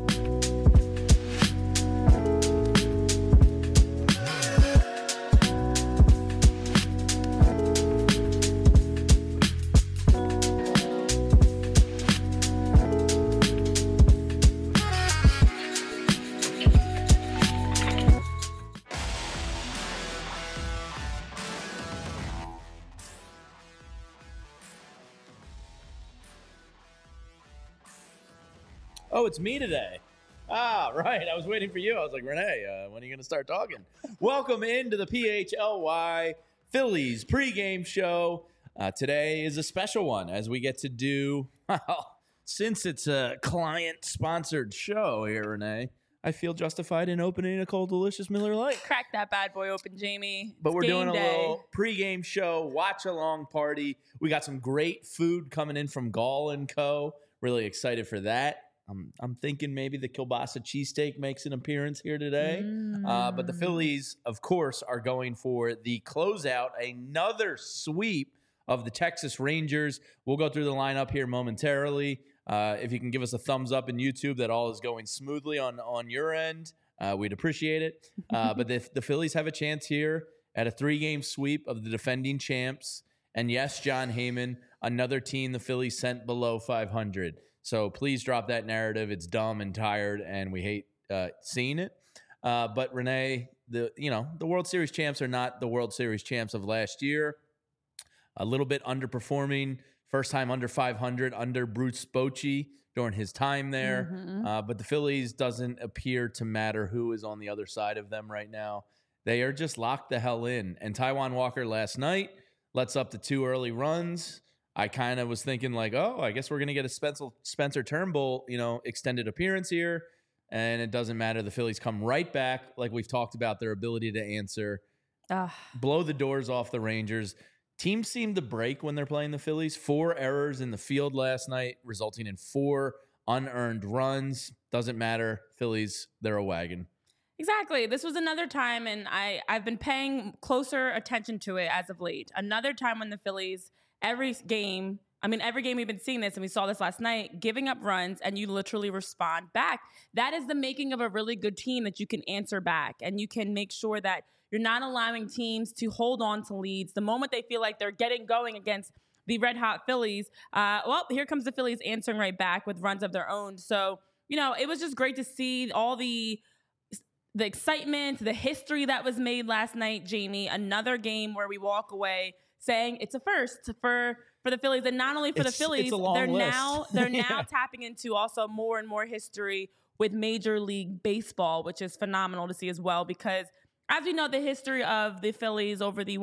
Oh, it's me today. Ah, right. I was waiting for you. I was like, Renee, when are you going to start talking? Welcome into the PHLY Phillies pregame show. Today is a special one as we get to do, well, since it's a client-sponsored show here, Renee, I feel justified in opening a cold, delicious Miller Lite. Crack that bad boy open, Jamie. But It's we're doing a game day. little pregame show, watch-along party. We got some great food coming in from Gall & Co. Really excited for that. I'm thinking maybe the kielbasa cheesesteak makes an appearance here today. But the Phillies, of course, are going for the closeout, another sweep of the Texas Rangers. We'll go through the lineup here momentarily. If you can give us a thumbs up in YouTube that all is going smoothly on your end, we'd appreciate it. But the Phillies have a chance here at a 3-game sweep of the defending champs. And yes, John Heyman, another team the Phillies sent below 500. So please drop that narrative. It's dumb and tired, and we hate seeing it. But Renee, the World Series champs are not the World Series champs of last year. A little bit underperforming. First time under 500 under Bruce Bochy during his time there. But the Phillies doesn't appear to matter who is on the other side of them right now. They are just locked the hell in. And Taijuan Walker last night lets up the 2 early runs. I kind of was thinking like, oh, I guess we're going to get a Spencer Turnbull, extended appearance here. And it doesn't matter. The Phillies come right back, like we've talked about, their ability to answer, blow the doors off the Rangers. Teams seem to break when they're playing the Phillies. 4 errors in the field last night, resulting in 4 unearned runs. Doesn't matter. Phillies, they're a wagon. Exactly. This was another time, and I've been paying closer attention to it as of late. Another time when the Phillies, every game we've been seeing this, and we saw this last night, giving up runs, and you literally respond back. That is the making of a really good team, that you can answer back, and you can make sure that you're not allowing teams to hold on to leads. The moment they feel like they're getting going against the red-hot Phillies, here comes the Phillies answering right back with runs of their own. So, it was just great to see all the excitement, the history that was made last night, Jamie. Another game where we walk away saying it's a first for the Phillies, and not only for the Phillies, it's a long list. they're now tapping into also more and more history with Major League Baseball, which is phenomenal to see as well, because as we know, the history of the Phillies over the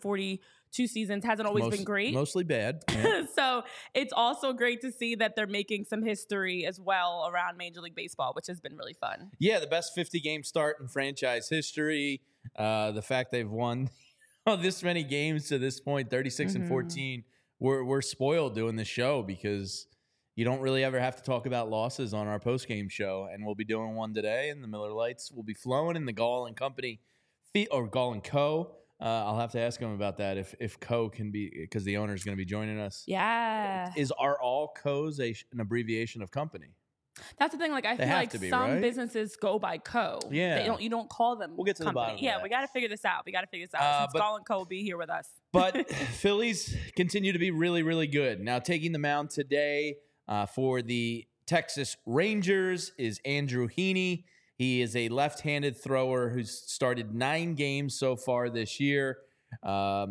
142 seasons hasn't always been great. Mostly bad. Yeah. So it's also great to see that they're making some history as well around Major League Baseball, which has been really fun. Yeah, the best 50-game start in franchise history. The fact they've won this many games to this point, 36 and 14. We're spoiled doing this show because you don't really ever have to talk about losses on our post-game show, and we'll be doing one today, and the Miller Lights will be flowing in the Gall & Company or Gall & Co. I'll have to ask him about that if Co can be, because the owner is going to be joining us. Yeah. Are all Co's an abbreviation of company? That's the thing. Like, I feel like some businesses go by Co. Yeah. You don't call them. We'll get to company. the bottom. Yeah, we got to figure this out. Since Gall & Co will be here with us. But Phillies continue to be really, really good. Now, taking the mound today for the Texas Rangers is Andrew Heaney. He is a left-handed thrower who's started 9 games so far this year, a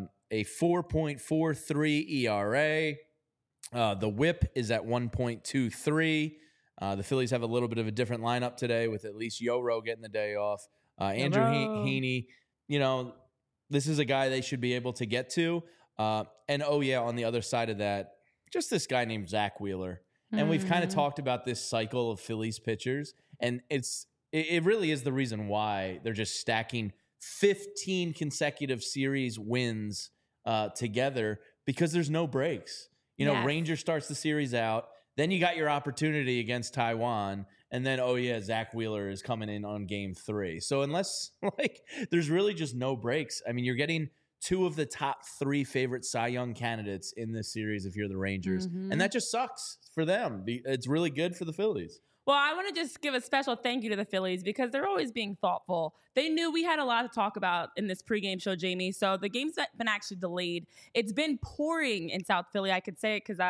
4.43 ERA. The whip is at 1.23. The Phillies have a little bit of a different lineup today with at least Yoro getting the day off. Andrew Heaney, this is a guy they should be able to get to. And, on the other side of that, just this guy named Zach Wheeler. And we've kind of talked about this cycle of Phillies pitchers, and it really is the reason why they're just stacking 15 consecutive series wins together, because there's no breaks. Ranger starts the series out. Then you got your opportunity against Taijuan, and then, Zach Wheeler is coming in on game 3. So unless, there's really just no breaks. I mean, you're getting 2 of the top 3 favorite Cy Young candidates in this series if you're the Rangers, and that just sucks for them. It's really good for the Phillies. Well, I want to just give a special thank you to the Phillies because they're always being thoughtful. They knew we had a lot to talk about in this pregame show, Jamie. So the game's been actually delayed. It's been pouring in South Philly. I could say it because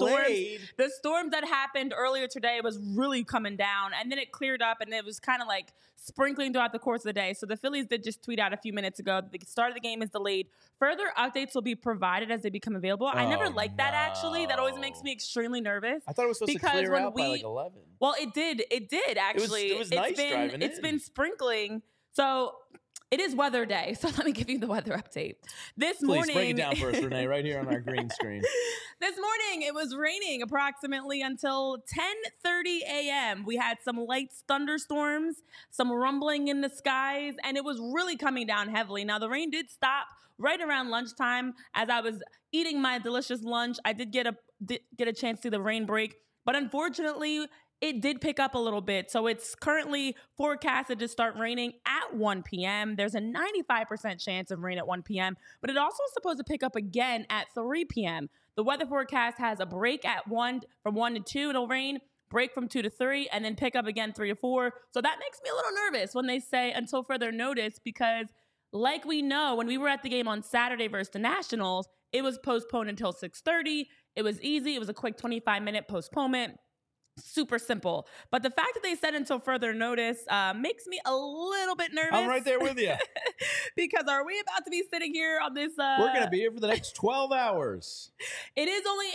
the storms that happened earlier today was really coming down, and then it cleared up, and it was kind of like sprinkling throughout the course of the day. So the Phillies did just tweet out a few minutes ago the start of the game is delayed. Further updates will be provided as they become available. I never liked that, actually. That always makes me extremely nervous. I thought it was supposed to clear out by like 11. Well, it did. It did, actually. It was nice driving It's been sprinkling. So it is weather day. So let me give you the weather update. This morning. Please break it down for us, Renee, right here on our green screen. This morning, it was raining approximately until 10:30 a.m. We had some light thunderstorms, some rumbling in the skies, and it was really coming down heavily. Now, the rain did stop right around lunchtime. As I was eating my delicious lunch, I did get a chance to see the rain break. But unfortunately, it did pick up a little bit. So it's currently forecasted to start raining at 1 p.m. There's a 95% chance of rain at 1 p.m., but it also is supposed to pick up again at 3 p.m. The weather forecast has a break at 1 from 1 to 2. It'll rain, break from 2 to 3, and then pick up again 3 to 4. So that makes me a little nervous when they say until further notice, because like we know, when we were at the game on Saturday versus the Nationals, it was postponed until 6:30. It was easy. It was a quick 25-minute postponement. Super simple. But the fact that they said until further notice makes me a little bit nervous. I'm right there with you. Because are we about to be sitting here on this? We're going to be here for the next 12 hours. It is only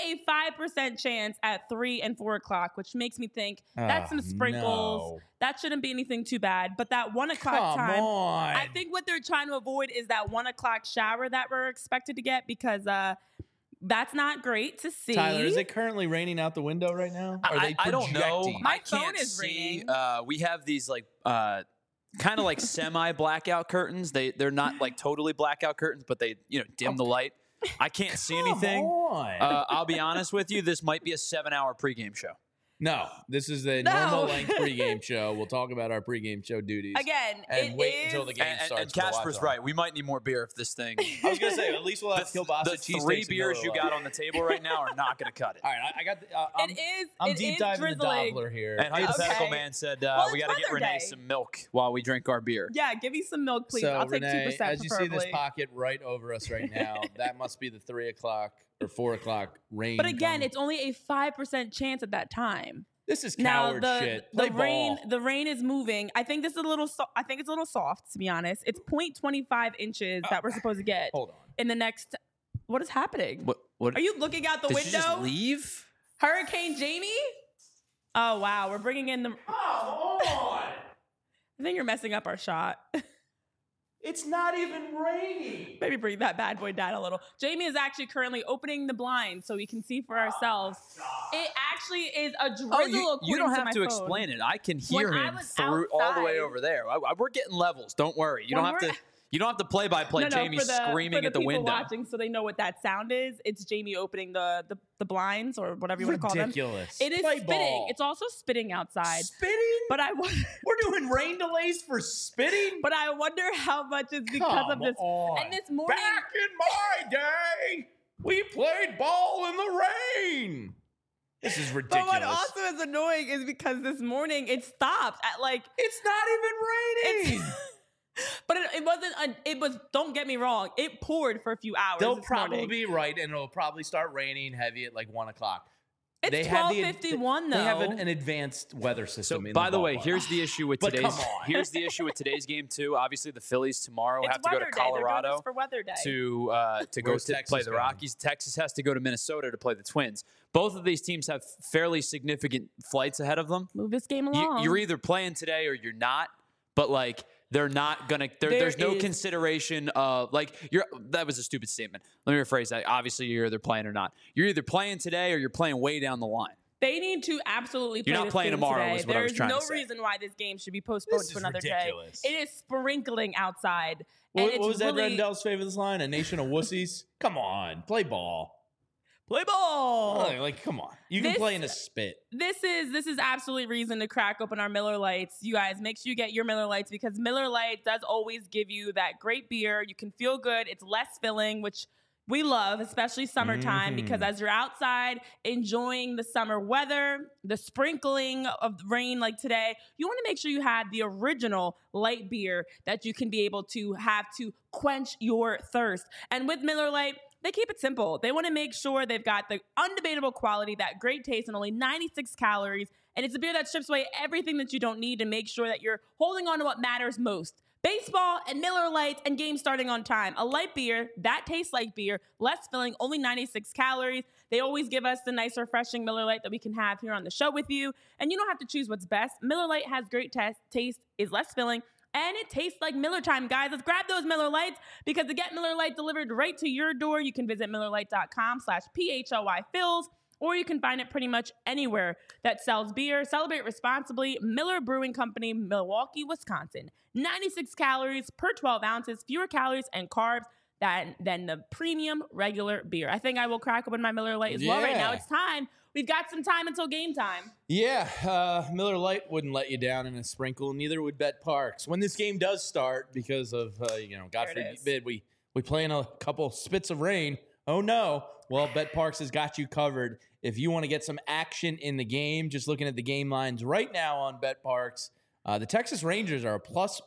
a 5% chance at 3 and 4 o'clock, which makes me think that's some sprinkles. No. That shouldn't be anything too bad. But that 1 o'clock time, I think what they're trying to avoid is that 1 o'clock shower that we're expected to get, because that's not great to see. Tyler, is it currently raining out the window right now? I don't know. My I can't phone is see. ringing. We have these like kind of like semi blackout curtains. They're not like totally blackout curtains, but they dim the light. I can't see anything. I'll be honest with you. This might be a 7-hour pregame show. No, this is the normal length pregame show. We'll talk about our pregame show duties. Again, and wait until the game starts. And Casper's right. We might need more beer if this thing. I was going to say, at least we'll have kielbasa cheesesteaks. The 3 beers you got on the table right now are not going to cut it. All right, I got. I'm deep diving the Doppler here. And Hypothetical Man said we got to get Renee some milk while we drink our beer. Yeah, give me some milk, please. So, I'll take 2%. As you see this pocket right over us right now, that must be the 3 o'clock or 4 o'clock rain. But again, it's only a 5% chance at that time. This is coward shit. The rain is moving. I think this is a little. I think it's a little soft, to be honest. It's 0.25 inches that we're supposed to get. Hold on. In the next. What is happening? What? Are you looking out the window? Did you just leave? Hurricane Jamie? Oh wow, we're bringing in the. Come on! I think you're messing up our shot. It's not even raining. Maybe bring that bad boy down a little. Jamie is actually currently opening the blinds so we can see for ourselves. It actually is a drizzle. You don't have to explain it. I can hear him through all the way over there. We're getting levels. Don't worry. You don't have to. You don't have to play-by-play Jamie screaming at the window. Watching, so they know what that sound is. It's Jamie opening the blinds or whatever you want to call them. Ridiculous. It is spitting. Ball. It's also spitting outside. Spitting? But we're doing rain delays for spitting? But I wonder how much is because of this. On. And this morning, back in my day, we played ball in the rain. This is ridiculous. But what also is annoying is because this morning it stopped at like. It's not even raining. But it wasn't. It was. Don't get me wrong. It poured for a few hours. They'll probably be right, and it'll probably start raining heavy at like 1 o'clock. It's 12:51 though. They have an advanced weather system. So, by the way, here's the issue with today's. Come on. Here's the issue with today's game too. Obviously, the Phillies tomorrow have to go to Day. Colorado for weather day. to go to play the Rockies. Texas has to go to Minnesota to play the Twins. Both of these teams have fairly significant flights ahead of them. Move this game along. You're either playing today or you're not. But like. They're not gonna. There's no consideration of that was a stupid statement. Let me rephrase that. Obviously, you're either playing or not. You're either playing today or you're playing way down the line. They need to absolutely play. You're not playing tomorrow. Today. Is what I was trying to say. There's no reason why this game should be postponed to another ridiculous. Day. It is sprinkling outside. What was Ed Rendell's favorite line? A nation of wussies. Come on, play ball. Play ball. Like, come on. You can play in a spit. This is absolute reason to crack open our Miller Lights. You guys, make sure you get your Miller Lights because Miller Lite does always give you that great beer. You can feel good. It's less filling, which we love, especially summertime, because as you're outside enjoying the summer weather, the sprinkling of rain like today, you want to make sure you have the original light beer that you can be able to have to quench your thirst. And with Miller Lite, they keep it simple. They want to make sure they've got the undebatable quality, that great taste, and only 96 calories. And it's a beer that strips away everything that you don't need to make sure that you're holding on to what matters most. Baseball and Miller Lite and games starting on time. A light beer that tastes like beer, less filling, only 96 calories. They always give us the nice, refreshing Miller Lite that we can have here on the show with you. And you don't have to choose what's best. Miller Lite has great taste, is less filling, and it tastes like Miller time, guys. Let's grab those Miller Lites, because to get Miller Lite delivered right to your door, you can visit MillerLite.com/PHLYFills, or you can find it pretty much anywhere that sells beer. Celebrate responsibly. Miller Brewing Company, Milwaukee, Wisconsin. 96 calories per 12 ounces, fewer calories and carbs than the premium regular beer. I think I will crack open my Miller Lite as well right now. It's time. We've got some time until game time. Yeah, Miller Lite wouldn't let you down in a sprinkle. Neither would Bet Parks. When this game does start, because of, God forbid, we play in a couple spits of rain. Oh, no. Well, Bet Parks has got you covered. If you want to get some action in the game, just looking at the game lines right now on Bet Parks, the Texas Rangers are a plus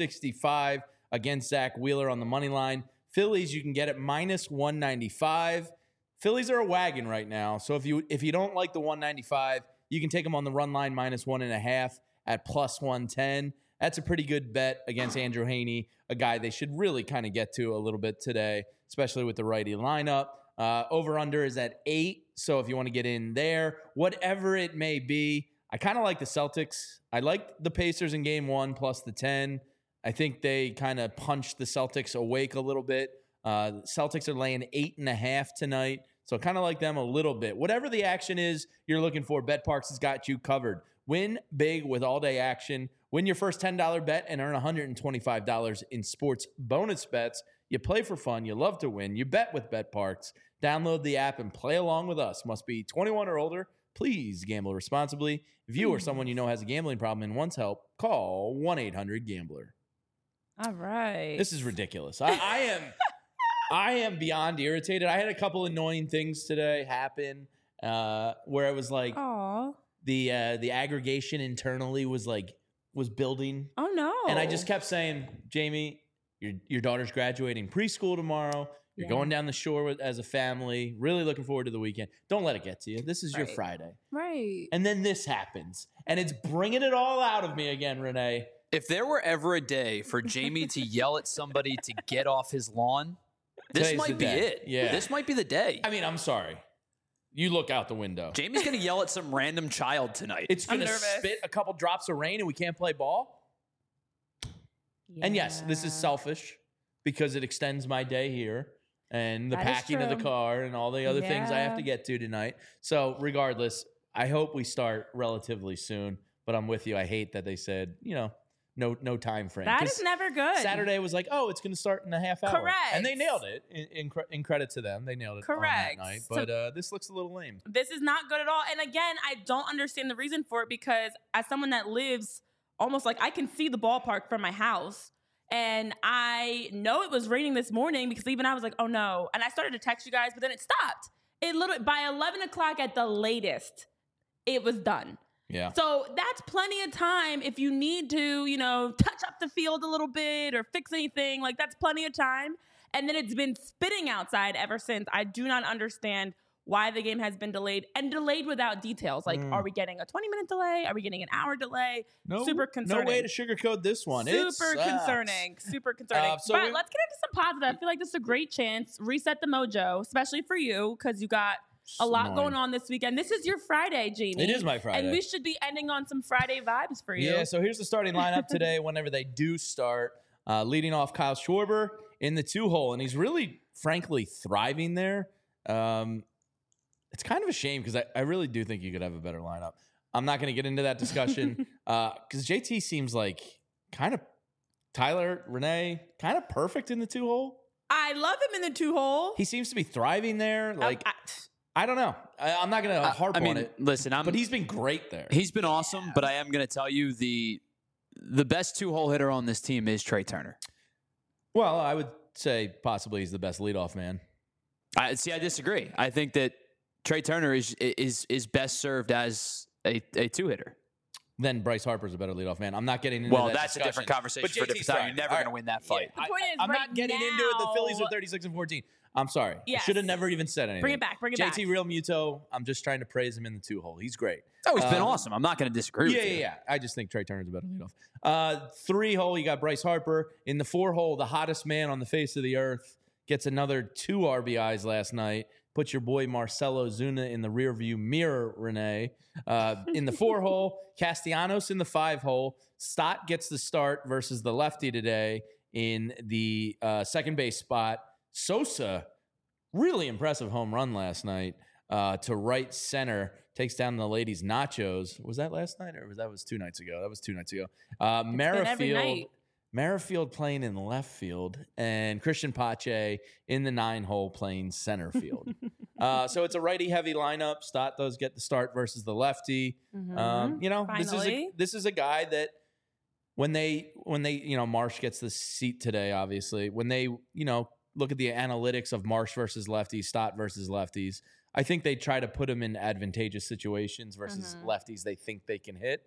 165 against Zach Wheeler on the money line. Phillies, you can get it minus 195. Phillies are a wagon right now. So if you don't like the 195, you can take them on the run line minus 1.5 at plus 110. That's a pretty good bet against Andrew Heaney, a guy they should really kind of get to a little bit today, especially with the righty lineup. Over-under is at 8, so if you want to get in there, whatever it may be, I kind of like the Celtics. I like the Pacers in game 1 plus the 10. I think they kind of punched the Celtics awake a little bit. Celtics are laying 8.5 tonight, so kind of like them a little bit. Whatever the action is you're looking for, Bet Parks has got you covered. Win big with all-day action. Win your first $10 bet and earn $125 in sports bonus bets. You play for fun. You love to win. You bet with Bet Parks. Download the app and play along with us. Must be 21 or older. Please gamble responsibly. If you or someone you know has a gambling problem and wants help, call 1-800-GAMBLER. All right. This is ridiculous. I am beyond irritated. I had a couple annoying things today happen where it was like the aggregation internally was building. Oh no. And I just kept saying, Jamie, your daughter's graduating preschool tomorrow. You're going down the shore as a family. Really looking forward to the weekend. Don't let it get to you. This is your Friday. Right. And then this happens. And it's bringing it all out of me again, Renee. If there were ever a day for Jamie to yell at somebody to get off his lawn, this might be it. Yeah. This might be the day. I mean, I'm sorry. You look out the window. Jamie's going to yell at some random child tonight. It's going to spit a couple drops of rain and we can't play ball? Yeah. And yes, this is selfish because it extends my day here. And the packing of the car and all the other things I have to get to tonight. So regardless, I hope we start relatively soon. But I'm with you. I hate that they said, no time frame. That is never good. Saturday was like, it's going to start in a half hour. Correct. And they nailed it. In credit to them, they nailed it on that night. But this looks a little lame. This is not good at all. And again, I don't understand the reason for it, because as someone that lives almost like I can see the ballpark from my house. And I know it was raining this morning because even I was like, oh no. And I started to text you guys, but then it stopped. It literally, by 11 o'clock at the latest, it was done. Yeah. So that's plenty of time if you need to, touch up the field a little bit or fix anything. Like, that's plenty of time. And then it's been spitting outside ever since. I do not understand why the game has been delayed and delayed without details. Like, are we getting a 20-minute delay? Are we getting an hour delay? No, super concerning. No way to sugarcoat this one. Super concerning. Super concerning. But let's get into some positive. I feel like this is a great chance. Reset the mojo, especially for you, because you got a lot going on this weekend. This is your Friday, Jamie. It is my Friday. And we should be ending on some Friday vibes for you. Yeah, so here's the starting lineup today whenever they do start. Leading off Kyle Schwarber in the 2-hole, and he's really, frankly, thriving there. It's kind of a shame because I really do think you could have a better lineup. I'm not going to get into that discussion because JT seems like kind of Tyler, Renee, kind of perfect in the 2-hole. I love him in the 2-hole. He seems to be thriving there. I don't know. I'm not going to harp on it. Listen, but he's been great there. He's been awesome, but I am going to tell you the best 2-hole hitter on this team is Trey Turner. Well, I would say possibly he's the best leadoff man. I disagree. I think that Trey Turner is best served as a two-hitter. Then Bryce Harper's a better leadoff man. I'm not getting into that. Well, that's a different conversation for a different time. You're never going to win that fight. The point is, I'm right not getting into it. The Phillies are 36-14. I'm sorry. Yes. I should have never even said anything. Bring it back. JT Real Muto, I'm just trying to praise him in the 2-hole. He's great. Oh, he's been awesome. I'm not going to disagree with you. Yeah. I just think Trey Turner's a better leadoff. 3-hole, you got Bryce Harper. In the 4-hole, the hottest man on the face of the earth gets another 2 RBIs last night. Put your boy Marcelo Zuna in the rearview mirror, Renee. In the 4-hole, Castellanos in the 5-hole. Stott gets the start versus the lefty today in the second base spot. Sosa, really impressive home run last night to right center. Takes down the ladies' Nachos. Was that last night or was 2 nights ago? That was 2 nights ago. Merrifield playing in left field and Christian Pache in the 9-hole playing center field. So it's a righty-heavy lineup. Stott does get the start versus the lefty. This is a guy that when they Marsh gets the seat today, obviously, when they, look at the analytics of Marsh versus lefties, Stott versus lefties, I think they try to put him in advantageous situations versus lefties they think they can hit.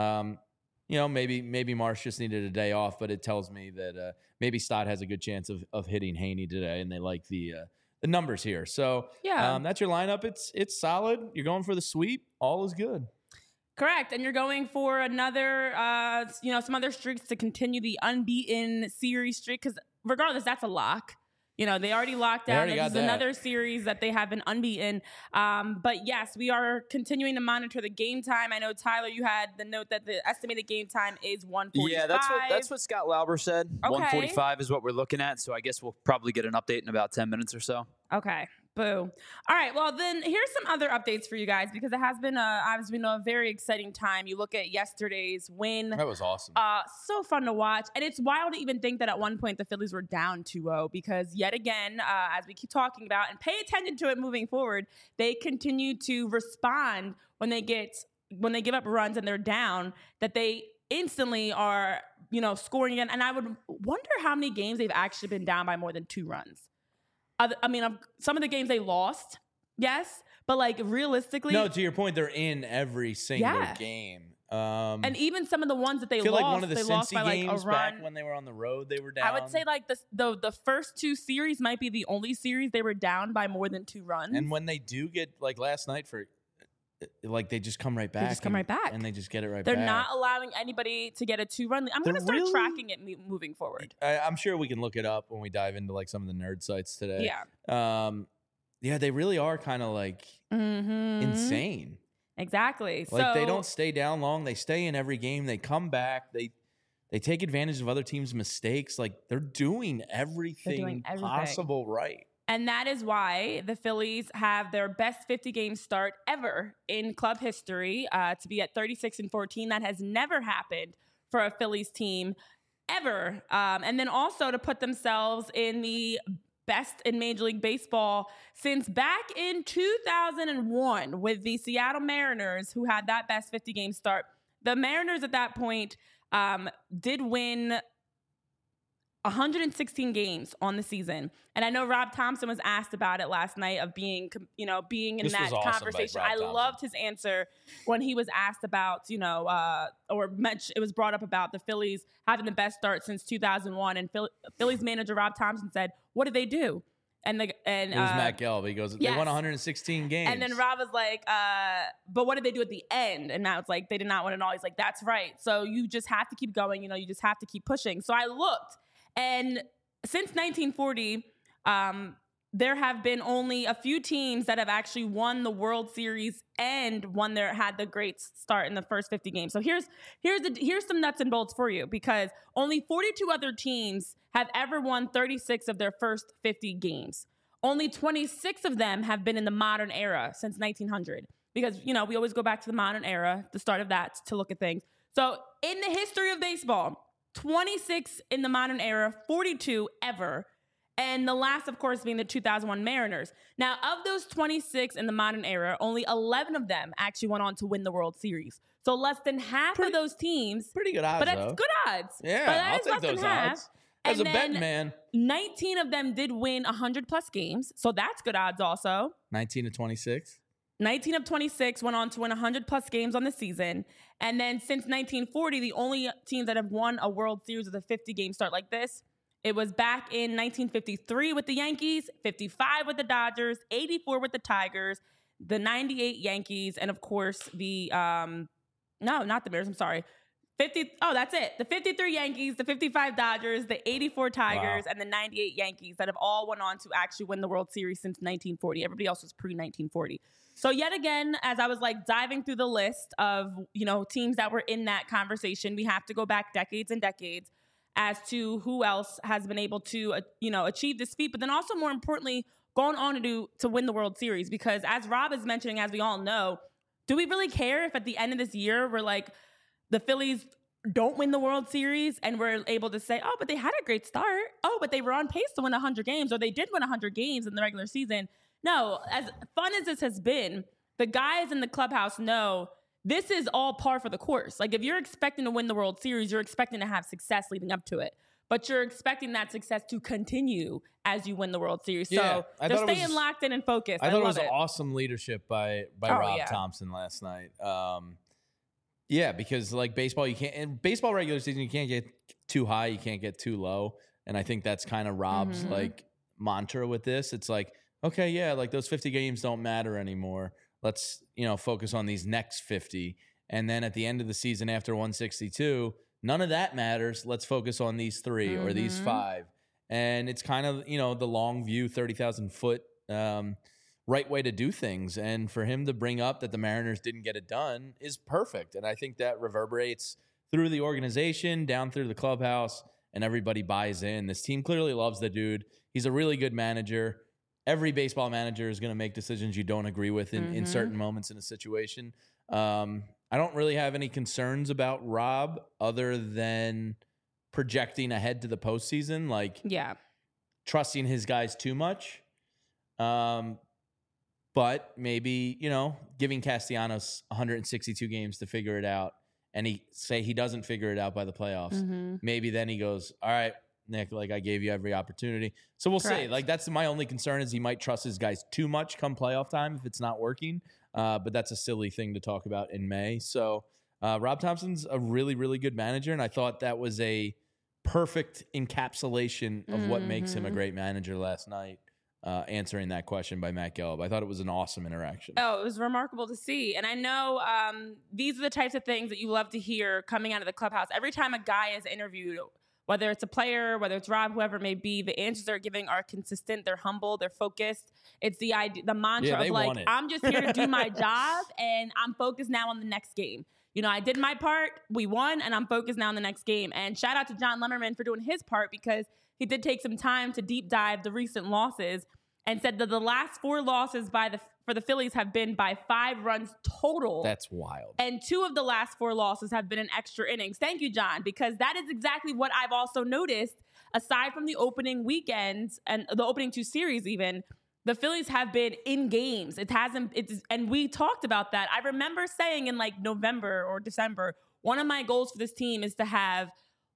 Maybe Marsh just needed a day off, but it tells me that maybe Stott has a good chance of hitting Haney today, and they like the numbers here. So that's your lineup. It's solid. You're going for the sweep. All is good. Correct. And you're going for another, some other streaks to continue the unbeaten series streak, because regardless, that's a lock. They already locked down. This is another series that they have been unbeaten. But yes, we are continuing to monitor the game time. I know, Tyler, you had the note that the estimated game time is 1:45. Yeah, that's what Scott Lauber said. Okay. 1:45 is what we're looking at. So I guess we'll probably get an update in about 10 minutes or so. Okay. Boo. All right. Well, then here's some other updates for you guys, because it has been a very exciting time. You look at yesterday's win. That was awesome. So fun to watch. And it's wild to even think that at one point the Phillies were down 2-0, because yet again, as we keep talking about and pay attention to it moving forward, they continue to respond when they give up runs and they're down, that they instantly are, scoring again. And I would wonder how many games they've actually been down by more than 2 runs. Some of the games they lost, yes, but realistically, no. To your point, they're in every single game, and even some of the ones that they feel lost, like one of the they lost by games a run. Back when they were on the road, they were down. I would say the first 2 series might be the only series they were down by more than 2 runs. And when they do get last night they just come right back. They just come right back, and they just get it right back. They're not allowing anybody to get a 2-run lead. I'm going to start tracking it moving forward. I'm sure we can look it up when we dive into some of the nerd sites today. Yeah. They really are kind of insane. Exactly. They don't stay down long. They stay in every game. They come back. They take advantage of other teams' mistakes. They're doing everything possible right. And that is why the Phillies have their best 50-game start ever in club history, to be at 36-14. That has never happened for a Phillies team ever. And then also to put themselves in the best in Major League Baseball since back in 2001 with the Seattle Mariners, who had that best 50-game start. The Mariners at that point did win 116 games on the season. And I know Rob Thompson was asked about it last night of being in that conversation. I loved his answer when he was asked about, it was brought up about the Phillies having the best start since 2001. And Phillies manager Rob Thompson said, "What did they do?" And it was Matt Gelb. He goes, "They won 116 games." And then Rob was like, "But what did they do at the end?" And now it's like, they did not win it all. He's like, "That's right. So you just have to keep going. You just have to keep pushing." So I looked. And since 1940, there have been only a few teams that have actually won the World Series and had the great start in the first 50 games. So here's some nuts and bolts for you, because only 42 other teams have ever won 36 of their first 50 games. Only 26 of them have been in the modern era since 1900, because we always go back to the modern era, the start of that, to look at things. So in the history of baseball, 26 in the modern era, 42 ever. And the last, of course, being the 2001 Mariners. Now, of those 26 in the modern era, only 11 of them actually went on to win the World Series. So less than half of those teams. Pretty good odds, But that's good odds. Yeah, but that I'll is take less those than half. odds. As a betting man. 19 of them did win 100-plus games, so that's good odds also. 19 to 26. 19 of 26 went on to win 100-plus games on the season. And then since 1940, the only teams that have won a World Series with a 50-game start like this, it was back in 1953 with the Yankees, 55 with the Dodgers, 84 with the Tigers, the 98 Yankees, and of course the, no, not the Bears, I'm sorry. That's it. The 53 Yankees, the 55 Dodgers, the 84 Tigers, and the 98 Yankees that have all went on to actually win the World Series since 1940. Everybody else was pre-1940. So yet again, as I was like diving through the list of, teams that were in that conversation, we have to go back decades and decades as to who else has been able to, achieve this feat, but then also more importantly, gone on to win the World Series. Because as Rob is mentioning, as we all know, do we really care if at the end of this year, we're like, the Phillies don't win the World Series and we're able to say, oh, but they had a great start. Oh, but they were on pace to win 100 games, or they did win 100 games in the regular season. No, as fun as this has been, the guys in the clubhouse know this is all par for the course. Like if you're expecting to win the World Series, you're expecting to have success leading up to it. But you're expecting that success to continue as you win the World Series. Yeah, so they're staying locked in and focused. I thought it was awesome leadership by Rob Thompson last night. Yeah, because like baseball, in baseball regular season, you can't get too high, you can't get too low. And I think that's kind of Rob's like mantra with this. It's like, okay, yeah, like those 50 games don't matter anymore. Let's, focus on these next 50. And then at the end of the season after 162, none of that matters. Let's focus on these 3 or these 5. And it's kind of, the long view, 30,000 foot right way to do things. And for him to bring up that the Mariners didn't get it done is perfect. And I think that reverberates through the organization, down through the clubhouse, and everybody buys in. This team clearly loves the dude. He's a really good manager. Every baseball manager is going to make decisions you don't agree with in certain moments in a situation. I don't really have any concerns about Rob other than projecting ahead to the postseason, like trusting his guys too much. But maybe, giving Castellanos 162 games to figure it out, and he doesn't figure it out by the playoffs. Maybe then he goes, all right, Nick, like I gave you every opportunity. So we'll see. Like that's my only concern is he might trust his guys too much come playoff time if it's not working. But that's a silly thing to talk about in May. So Rob Thompson's a really, really good manager. And I thought that was a perfect encapsulation of what makes him a great manager last night. Answering that question by Matt Gelb. I thought it was an awesome interaction. Oh, it was remarkable to see. And I know these are the types of things that you love to hear coming out of the clubhouse. Every time a guy is interviewed, whether it's a player, whether it's Rob, whoever it may be, the answers they're giving are consistent. They're humble. They're focused. It's the idea, the mantra of like, I'm just here to do my job and I'm focused now on the next game. I did my part. We won and I'm focused now on the next game. And shout out to John Lemmerman for doing his part because he did take some time to deep dive the recent losses and said that the last 4 losses for the Phillies have been by 5 runs total. That's wild. And 2 of the last 4 losses have been in extra innings. Thank you, John, because that is exactly what I've also noticed. Aside from the opening weekends and the opening 2 series even, the Phillies have been in games. And we talked about that. I remember saying in like November or December, one of my goals for this team is to have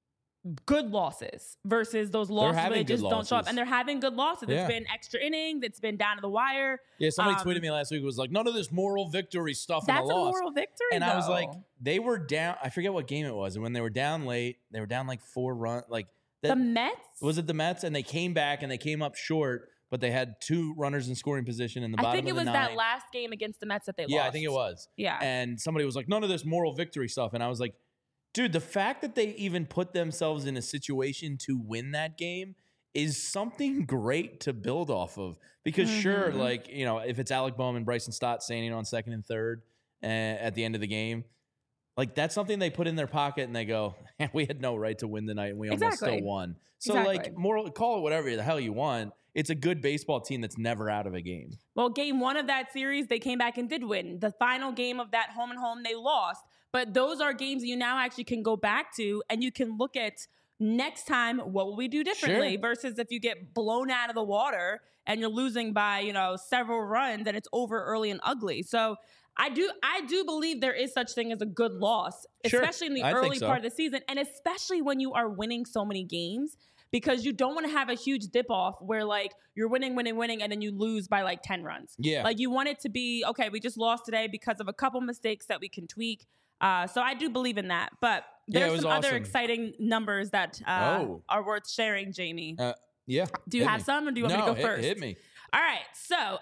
good losses versus those losses where they just don't show up. And they're having good losses. Yeah. It's been extra innings. It's been down to the wire. Yeah, somebody tweeted me last week. It was like, none of this moral victory stuff in the loss. That's a moral victory, and I was like, they were down. I forget what game it was. And when they were down late, they were down like 4 runs. Like the Mets? Was it the Mets? And they came back and they came up short, but they had 2 runners in scoring position in the bottom of the 9th. I think it was that last game against the Mets that they lost. Yeah, I think it was. Yeah. And somebody was like, none of this moral victory stuff. And I was like, dude, the fact that they even put themselves in a situation to win that game is something great to build off of. Because sure, like, if it's Alec Bohm and Bryson Stott standing on second and third at the end of the game, like that's something they put in their pocket and they go, we had no right to win tonight and we almost still won. So like call it whatever the hell you want. It's a good baseball team that's never out of a game. Well, game 1 of that series, they came back and did win. The final game of that home and home, they lost. But those are games that you now actually can go back to and you can look at next time, what will we do differently versus if you get blown out of the water and you're losing by, several runs and it's over early and ugly. So I do believe there is such thing as a good loss, especially in the early part of the season and especially when you are winning so many games. because you don't want to have a huge dip off where like you're winning, and then you lose by like 10 runs. Yeah. Like you want it to be, okay, we just lost today because of a couple mistakes that we can tweak. So I do believe in that. But there's some other exciting numbers that are worth sharing, Jamie. Yeah. Do you have some, or do you want me to go first? Hit me. All right. So,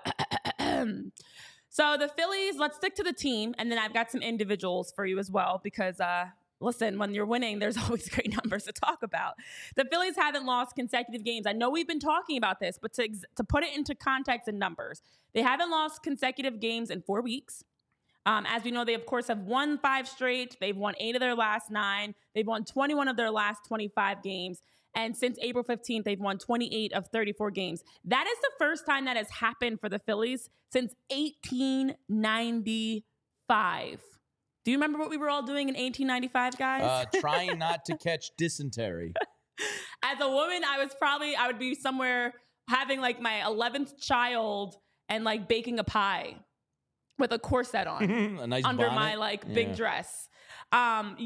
so the Phillies, let's stick to the team. And then I've got some individuals for you as well, because listen, when you're winning, there's always great numbers to talk about. The Phillies haven't lost consecutive games. I know we've been talking about this, but to put it into context and numbers, they haven't lost consecutive games in 4 weeks. As we know, they, of course, have won 5 straight. They've won 8 of their last 9. They've won 21 of their last 25 games. And since April 15th, they've won 28 of 34 games. That is the first time that has happened for the Phillies since 1895. Do you remember what we were all doing in 1895, guys? Trying not to catch dysentery. As a woman, I would be somewhere having like my 11th child and like baking a pie with a corset on A nice under bonnet. my like big dress. In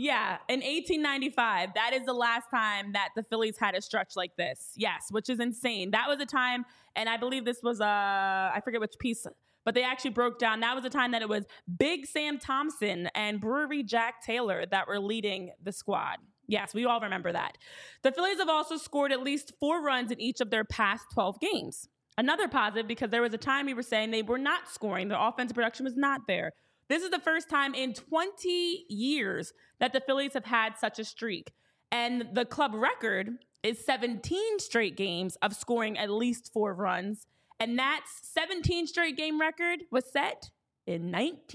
1895, that is the last time that the Phillies had a stretch like this. Yes, which is insane. That was a time, and I believe this was I forget which piece, but they actually broke down. That was a time that it was Big Sam Thompson and Brewery Jack Taylor that were leading the squad. Yes, we all remember that. The Phillies have also scored at least 4 runs in each of their past 12 games. Another positive, because there was a time we were saying they were not scoring. Their offensive production was not there. This is the first time in 20 years that the Phillies have had such a streak. And the club record is 17 straight games of scoring at least 4 runs. And that 17 straight game record was set in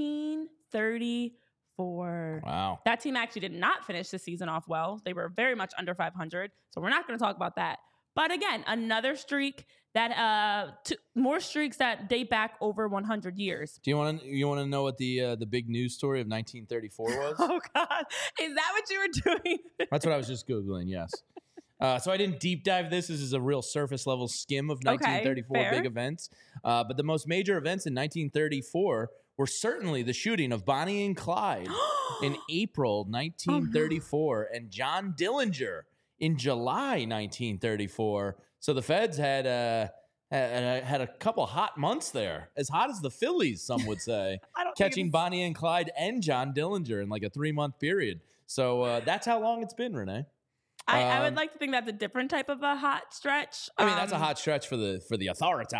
1934. Wow. That team actually did not finish the season off well. They were very much under 500. So we're not going to talk about that. But again, another streak that more streaks that date back over 100 years. Do you want to know what the big news story of 1934 was? Oh God, is that what you were doing? That's what I was just Googling. Yes. So I didn't deep dive this. This is a real surface level skim of 1934 big events. But the most major events in 1934 were certainly the shooting of Bonnie and Clyde in April 1934 and John Dillinger in July 1934. So the Feds had a couple hot months there, as hot as the Phillies, some would say, catching Bonnie and Clyde and John Dillinger in like a 3-month period. So that's how long it's been, Renee. I would like to think that's a different type of a hot stretch. I mean, that's a hot stretch for the authority.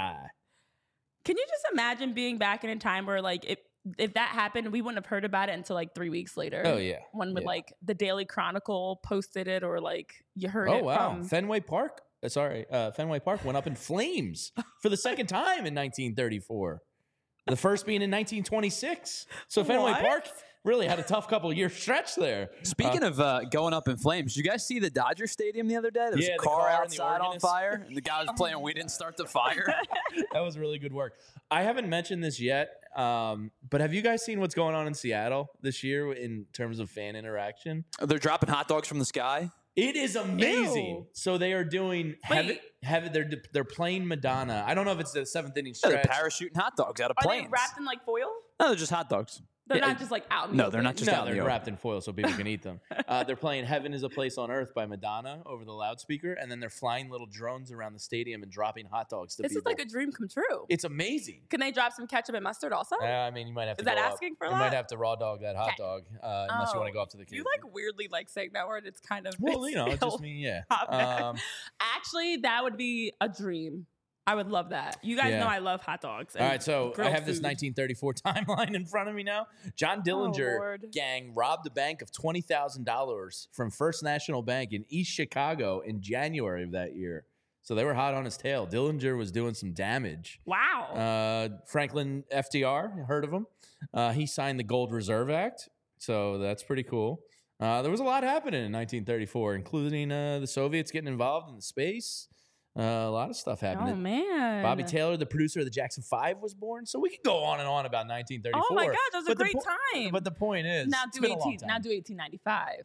Can you just imagine being back in a time where like if that happened, we wouldn't have heard about it until like 3 weeks later. Oh yeah, when would like the Daily Chronicle posted it, or like you heard it. Oh wow, from Fenway Park. Fenway Park went up in flames for the second time in 1934. The first being in 1926. So Fenway Park really had a tough couple year stretch there. Speaking of going up in flames, did you guys see the Dodger Stadium the other day? There was a car outside on fire, and the guy was playing "We Didn't Start the Fire." That was really good work. I haven't mentioned this yet, but have you guys seen what's going on in Seattle this year in terms of fan interaction? They're dropping hot dogs from the sky. It is amazing. Ew. So they are doing they're playing Madonna. I don't know if it's the 7th inning stretch. Yeah, they're parachuting hot dogs out of planes. Are they wrapped in like foil? No, they're just hot dogs. They're not just like out in the No, open. they're not just out in the they're open. wrapped in foil so people can eat them. They're playing Heaven is a Place on Earth by Madonna over the loudspeaker, and then they're flying little drones around the stadium and dropping hot dogs to This people. is like a dream come true. It's amazing. Can they drop some ketchup and mustard also? I mean, you might have to Is that go up. asking for a You lot? might have to raw dog that hot dog unless you want to go up to the You kitchen. like weirdly like saying that word. It's kind of Well, you know, it just mean, yeah. Actually, that would be a dream. I would love that. You guys Yeah. know I love hot dogs. All right, so I grilled have this food. 1934 timeline in front of me now. John Dillinger Lord. gang robbed a bank of $20,000 from First National Bank in East Chicago in January of that year. So they were hot on his tail. Dillinger was doing some damage. Wow. Franklin FDR, heard of him? He signed the Gold Reserve Act, so that's pretty cool. There was a lot happening in 1934, including the Soviets getting involved in the space. A lot of stuff happening. Oh man. Bobby Taylor, the producer of the Jackson 5, was born. So we could go on and on about 1934. Oh my God, that was a But the great time. But the point is, now it's do been a long 18. time. Now do 1895.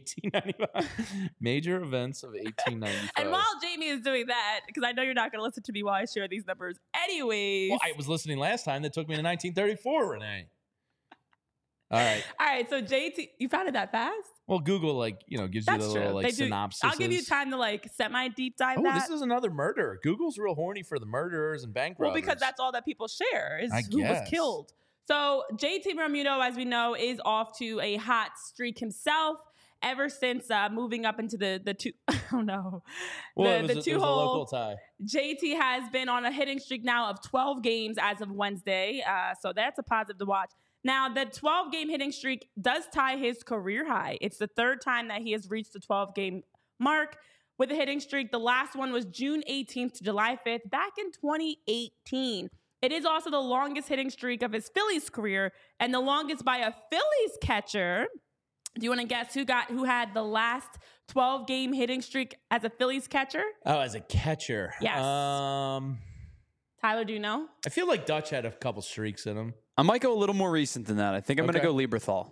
1895. Major events of 1895. And while Jamie is doing that, because I know you're not going to listen to me while I share these numbers, anyways. Well, I was listening last time. That took me to 1934, Renee. All right. All right. So JT, you found it that fast? Well, Google gives you That's the true. little They do. synopsis. I'll give you time to semi deep dive Oh, that. this is another murder. Google's real horny for the murderers and bank robbers. Well, because that's all that people share is I who was guess. killed. So JT Bermudo, as we know, is off to a hot streak himself. Ever since moving up into the two, oh no, Well, the it was two a hole. local tie. JT has been on a hitting streak now of 12 games as of Wednesday. So that's a positive to watch. Now, the 12-game hitting streak does tie his career high. It's the third time that he has reached the 12-game mark with a hitting streak. The last one was June 18th to July 5th back in 2018. It is also the longest hitting streak of his Phillies career and the longest by a Phillies catcher. Do you want to guess who had the last 12-game hitting streak as a Phillies catcher? Oh, as a catcher. Yes. Tyler, do you know? I feel like Dutch had a couple streaks in him. I might go a little more recent than that. I think I'm going to go Lieberthal.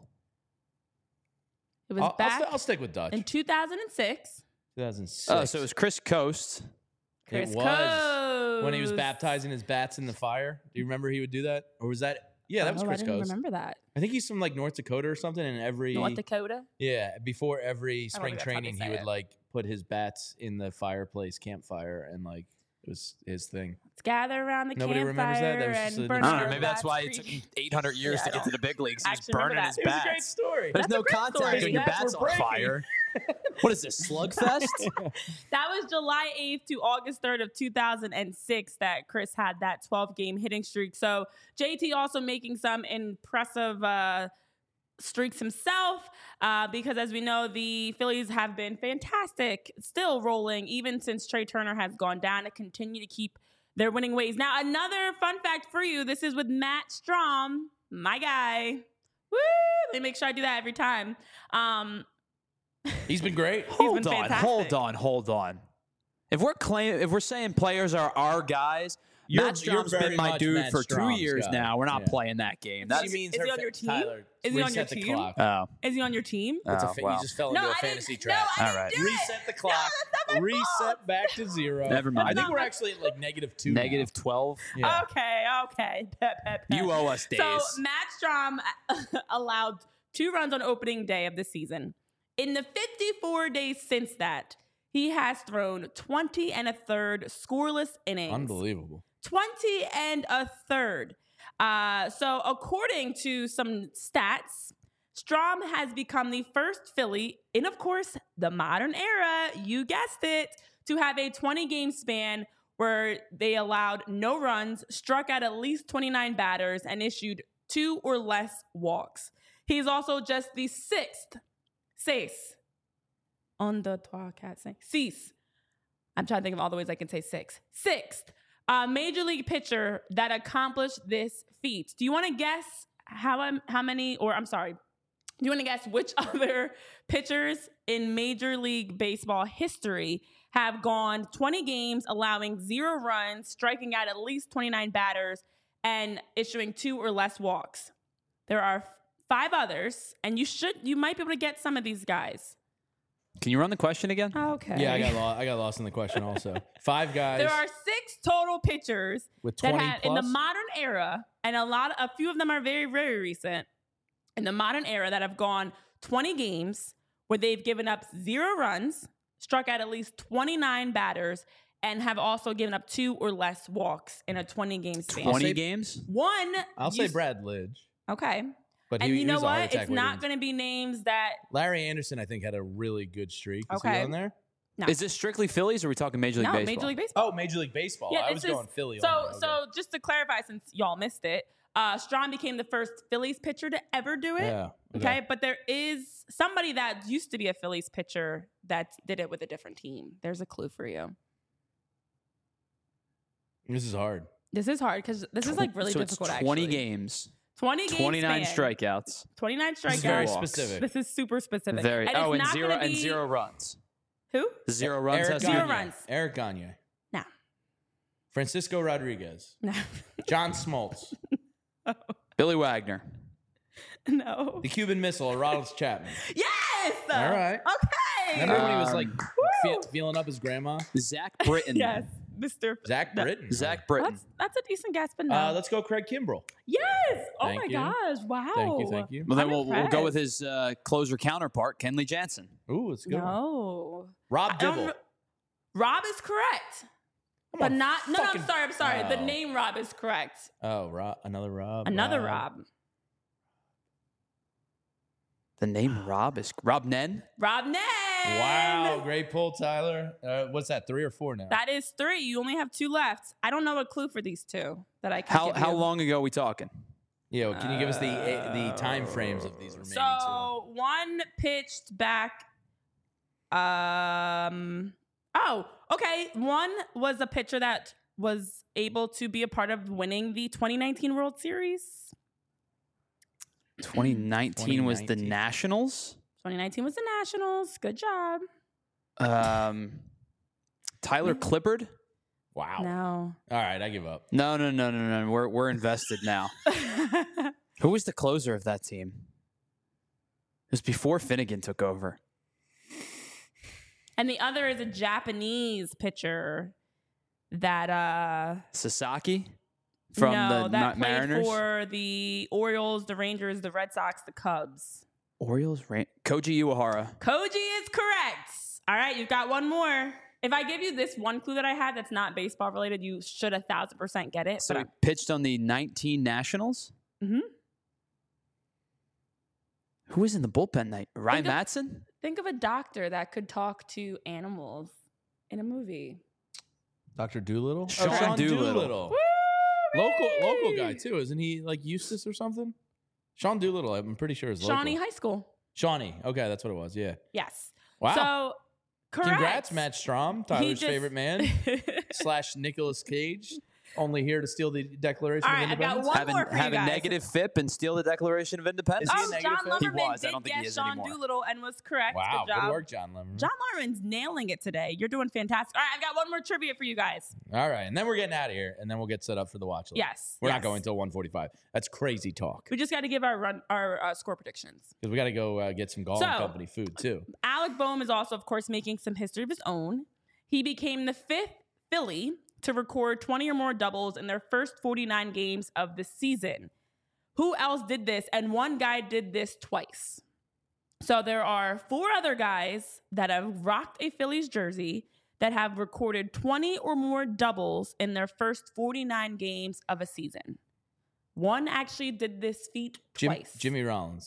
It was back I'll stick with Dutch. in 2006. 2006. Oh, so it was Chris Coast. Chris It was when he was Coast. baptizing his bats in the fire. Do you remember he would do that? Or was that? Yeah, that was Oh, Chris I didn't Coast. remember that. I think he's from North Dakota or something. And North Dakota? before every I don't spring think that's how they training, he say would it. put his bats in the fireplace, campfire, and it was his thing. Let's gather around the Nobody remembers that? That was campfire just and a- burn I I don't our know. Maybe that's bats why for it took you. him 800 years to get to the big leagues. He was Actually remember burning that. his It was a bats. story. There's That's no a great contact story. when your Bats bats were on breaking. fire. What is this, Slugfest? That was July 8th to August 3rd of 2006 that Chris had that 12-game hitting streak. So JT also making some impressive streaks himself because, as we know, the Phillies have been fantastic, still rolling, even since Trey Turner has gone down, to continue to keep their winning ways. Now, another fun fact for you, this is with Matt Strom, my guy. Woo! They make sure I do that every time. He's been great. He's been fantastic. Hold on. If we're saying players are our guys, Matt Strom's very been my much dude Matt for 2 Strom's years guy. now. We're not Yeah. playing that game. She That's means is her he on your team? Tyler, Is he on reset your the team? clock. oh, Is he on your team? Oh, You well. just fell into a I fantasy didn't. trap. No, I All didn't right. do it. Reset the clock. that's not my Reset fault. back to 0. Never mind. I think No, we're but- actually at -2. negative 12. Yeah. Okay. Pep, pep, pep. You owe us days. So Matt Strom allowed 2 runs on opening day of the season. In the 54 days since that, he has thrown 20 1/3 scoreless innings. Unbelievable. 20 1/3. So according to some stats, Strom has become the first Philly in, of course, the modern era, you guessed it, to have a 20-game span where they allowed no runs, struck out at least 29 batters, and issued 2 or less walks. He's also just the sixth. On the trois, quatre, cinq. Six. I'm trying to think of all the ways I can say six. Sixth major league pitcher that accomplished this feat. Do you want to guess how many, or I'm sorry, do you want to guess which other pitchers in Major League Baseball history have gone 20 games, allowing 0 runs, striking out at least 29 batters, and issuing 2 or less walks? There are 5 others, and you might be able to get some of these guys. Can you run the question again? Okay. Yeah, I got lost in the question also. 5 guys There are 6 total pitchers with that 20 had plus. in the modern era, and a few of them are very, very recent. In the modern era, that have gone 20 games where they've given up 0 runs, struck out at least 29 batters, and have also given up 2 or less walks in a 20-game span. 20 games? One. I'll say Brad Lidge. Okay. But And you know was a heart what? attack It's not waiting. going to be names that. Larry Anderson, I think, had a really good streak. Is Okay. he on there? No. Is this strictly Phillies or are we talking Major League No, Baseball? Major League Baseball. Oh, Major League Baseball. Yeah, I this was is- going Philly. So, only. Okay. so just to clarify, since y'all missed it, Strom became the first Phillies pitcher to ever do it. Yeah. Okay, but there is somebody that used to be a Phillies pitcher that did it with a different team. There's a clue for you. This is hard. This is hard because this is like really so difficult. it's 20 actually. games, 20 games, 29 span, strikeouts. 29 This is very strikeouts. walks. specific. This is super specific. Very. And it's And not zero gonna and be- 0 runs. Who? 0 runs. Eric has Zero to Gagne. be- runs. Eric Gagne. No. Francisco Rodriguez. No. John Smoltz. Billy Wagner. No. The Cuban Missile, Aroldis Chapman. Yes. All right. Okay. Remember when he was like Um, feeling up his grandma? Zach Britton. Yes. Mr. Zach Britton. Zach Britton. That's a decent guess, but no. Let's go Craig Kimbrell. Yes. Oh Thank my you. gosh. Wow. Thank you. Well, then I'm we'll go with impressed. his closer counterpart, Kenley Jansen. Ooh, let's go. No. Rob I don't Dibble. kn- Rob is correct. Come But on, not. No, fucking- I'm sorry. The Oh. name Rob is correct. Oh, Rob. Another Rob. Another Rob. The name Rob is Rob Nen. Rob Nen. Wow, great pull, Tyler. What's that? 3 or 4 now? That is 3. You only have 2 left. I don't know a clue for these 2 that I can give How you. long ago are we talking? Yeah, well, can you give us the time frames of these remaining So one pitched back. Oh, okay. One was a pitcher that was able to be a part of winning the 2019 World Series. 2019 was the 2019. Nationals. 2019 was the Nationals. Good job. Tyler Clippard. two? Wow. No. All right, I give up. No. We're invested now. Who was the closer of that team? It was before Finnegan took over. And the other is a Japanese pitcher that Sasaki from the that played Mariners. for the Orioles, the Rangers, the Red Sox, the Cubs. Orioles. Koji Uehara. Koji is correct. All right, you've got one more. If I give you this one clue that I had that's not baseball related, you should 1,000% get it. So but he pitched on the 19 Nationals. Mhm. Who was in the bullpen night? Ryan Think of- Madsen? think of a doctor that could talk to animals in a movie. Dr. Doolittle? Sean Doolittle. Local guy, too. Isn't he like Eustace or something? Sean Doolittle, I'm pretty sure is local. Shawnee High School. Shawnee. Okay, that's what it was. Yeah. Yes. Wow. So, correct. Congrats, Matt Strom, Tyler's just- favorite man, / Nicolas Cage. Only here to steal the Declaration All of right, I've got Independence. one more for you Have a guys. negative FIP and steal the Declaration of Independence. Is he a Oh, negative John fit? He Lumberman was. I did don't think he guess is Sean anymore. Doolittle and was correct. Wow, Good job. good work, John Lemon. John Lumberman's nailing it today. You're doing fantastic. All right, I've got one more trivia for you guys. All right, and then we're getting out of here, and then we'll get set up for the watch list. Yes. We're yes. not going until 1:45. That's crazy talk. We just got to give our score predictions. Because we got to go get some Gall and So- Company food, too. Alec Boehm is also, of course, making some history of his own. He became the 5th Philly to record 20 or more doubles in their first 49 games of the season. Who else did this? And one guy did this twice. So there are 4 other guys that have rocked a Phillies jersey that have recorded 20 or more doubles in their first 49 games of a season. One actually did this feat twice. Jimmy Rollins.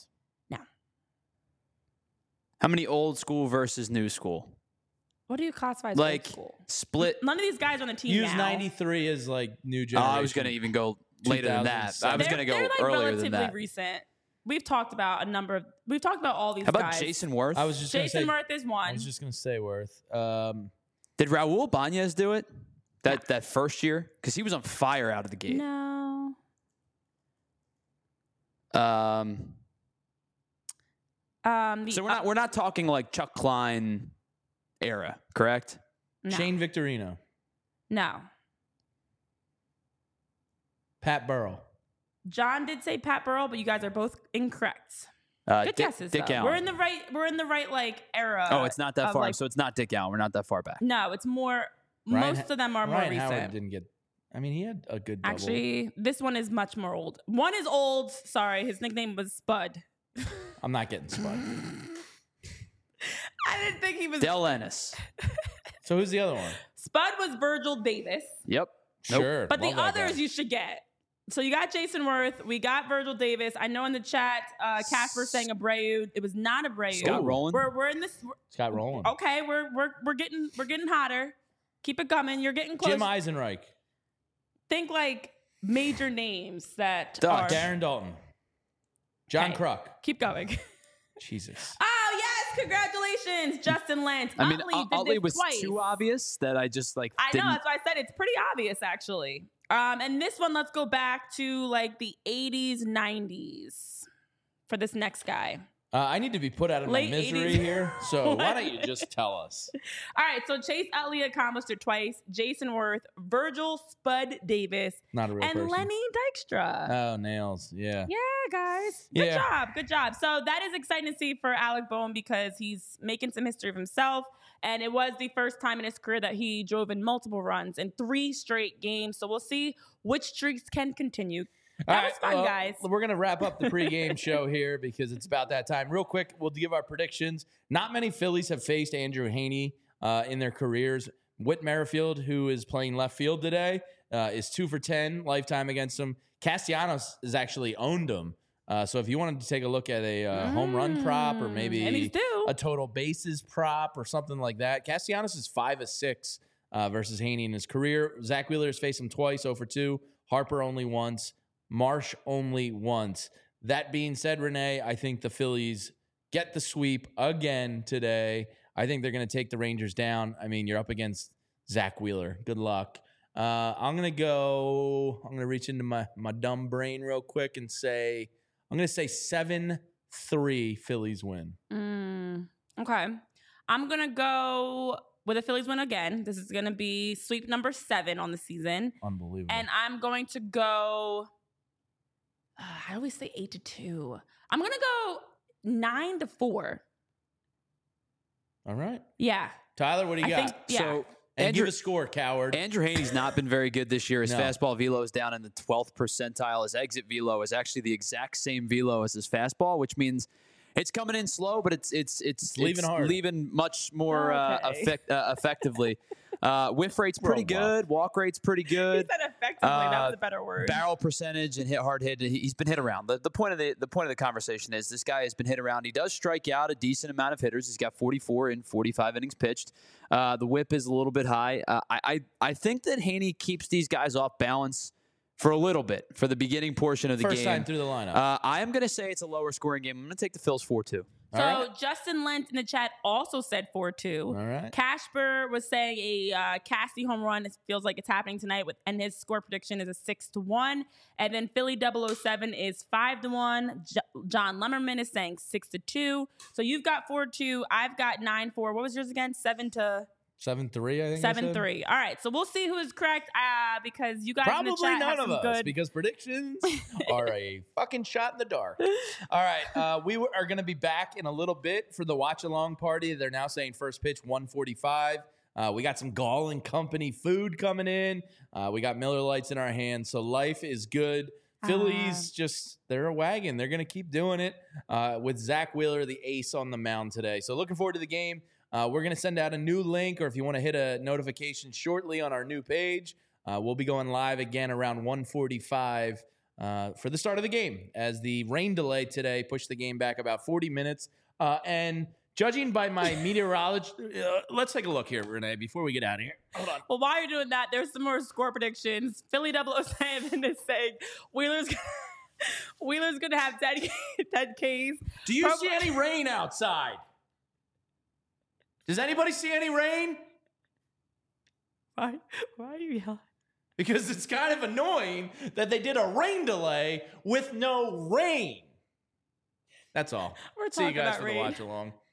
How many old school versus new school? What do you classify as Like old school? split. None of these guys are on the team Use now. 93 as like new Oh, generation. I was going to even go later than that. I was going to go They're like earlier relatively than that. recent. We've talked about we've talked about all these How about guys. Jason Worth? I was just going to say. Jason Worth is I one. was just going to say Worth. Did Raul Banez do it that first year? Because he was on fire out of the gate. No. So we're not talking like Chuck Klein era, correct? No. Shane Victorino. No. Pat Burrell. John did say Pat Burrell, but you guys are both incorrect. Good guesses. Dick though. Allen. We're in the right like era. Oh, it's not that of, far. like- So it's not Dick Allen. We're not that far back. No, it's more. Ryan most of them are more Ryan recent. Howard didn't get. I mean, he had a good double. Actually, this one is much more old. One is old. Sorry, his nickname was Spud. I'm not getting Spud. I didn't think he was. Del Ennis. So who's the other one? Spud was Virgil Davis. Yep. Nope. Sure. But the love that guy. others you should get. So you got Jason Worth. We got Virgil Davis. I know in the chat, Casper saying Abreu. It was not Abreu. Scott Rowland. We're in this. Scott Rowland. Okay, we're getting hotter. Keep it coming. You're getting close. Jim Eisenreich. Think like major names that Duh, are. Darren Dalton. John Okay. Kruk. Keep going. Jesus. Oh yes, congratulations, Justin Lentz. I mean, Utley did Utley this was twice. too obvious that I just like. I didn't, know, that's why I said it's pretty obvious actually. And this one, let's go back to like the 80s, 90s for this next guy. I need to be put out of Late my misery 80s. here. So why don't you just tell us? All right, so Chase Utley accomplished it twice. Jason Worth, Virgil Spud Davis, Not a real and person. Lenny Dykstra. Oh, nails. Yeah. Yeah, guys. Yeah. Good job. So that is exciting to see for Alec Boehm because he's making some history of himself. And it was the first time in his career that he drove in multiple runs in 3 straight games. So we'll see which streaks can continue. That was fun, guys. We're going to wrap up the pregame show here because it's about that time. Real quick, we'll give our predictions. Not many Phillies have faced Andrew Heaney in their careers. Whit Merrifield, who is playing left field today, is 2 for 10 lifetime against him. Castellanos has actually owned him. So if you wanted to take a look at a home run prop or maybe a total bases prop or something like that, Castellanos is 5 of 6 versus Heaney in his career. Zach Wheeler has faced him twice, 0 for 2. Harper only once. Marsh only once. That being said, Renee, I think the Phillies get the sweep again today. I think they're going to take the Rangers down. I mean, you're up against Zach Wheeler. Good luck. I'm going to reach into my dumb brain real quick and say, I'm going to say 7-3 Phillies win. Okay. I'm going to go with a Phillies win again. This is going to be sweep number 7 on the season. Unbelievable. And I'm going to go, I always say 8-2. I'm going to go 9-4. All right. Yeah. Tyler, what do you got? So, and give a score, coward. Andrew Heaney's not been very good this year. His fastball velo is down in the 12th percentile. His exit velo is actually the exact same velo as his fastball, which means it's coming in slow, but it's leaving hard. Leaving much more effectively. Whiff rate's pretty good. Walk rate's pretty good. He said effectively. That was a better word. Barrel percentage and hard hit. He's been hit around. The point of the conversation is this guy has been hit around. He does strike out a decent amount of hitters. He's got 44 in 45 innings pitched. The whip is a little bit high. I think that Heaney keeps these guys off balance for a little bit for the beginning portion of the game. First time through the lineup. I am going to say it's a lower scoring game. I'm going to take the Phils 4-2. So Justin Lent in the chat also said 4-2. All right. Casper was saying a Cassie home run. It feels like it's happening tonight, and his score prediction is a 6-1. And then Philly 007 is 5-1. John Lemmerman is saying 6-2. So you've got 4-2. I've got 9-4. What was yours again? 7-3, I think. 7-3. All right. So we'll see who is correct because you guys probably in the chat none have of some us good because predictions are a fucking shot in the dark. All right. We are going to be back in a little bit for the watch along party. They're now saying first pitch 1:45. We got some Gall and Company food coming in. We got Miller Lights in our hands. So life is good. Phillies they're a wagon. They're going to keep doing it with Zach Wheeler, the ace on the mound today. So looking forward to the game. We're going to send out a new link, or if you want to hit a notification shortly on our new page, we'll be going live again around 1:45 for the start of the game as the rain delay today pushed the game back about 40 minutes. And judging by my meteorologist, let's take a look here, Renee, before we get out of here. Hold on. Well, while you're doing that, there's some more score predictions. Philly 007 is saying Wheeler's going to have 10 Ks. Do you see any rain outside? Does anybody see any rain? Why are you yelling? Because it's kind of annoying that they did a rain delay with no rain. That's all. We're See you talking guys about for rain. the watch along.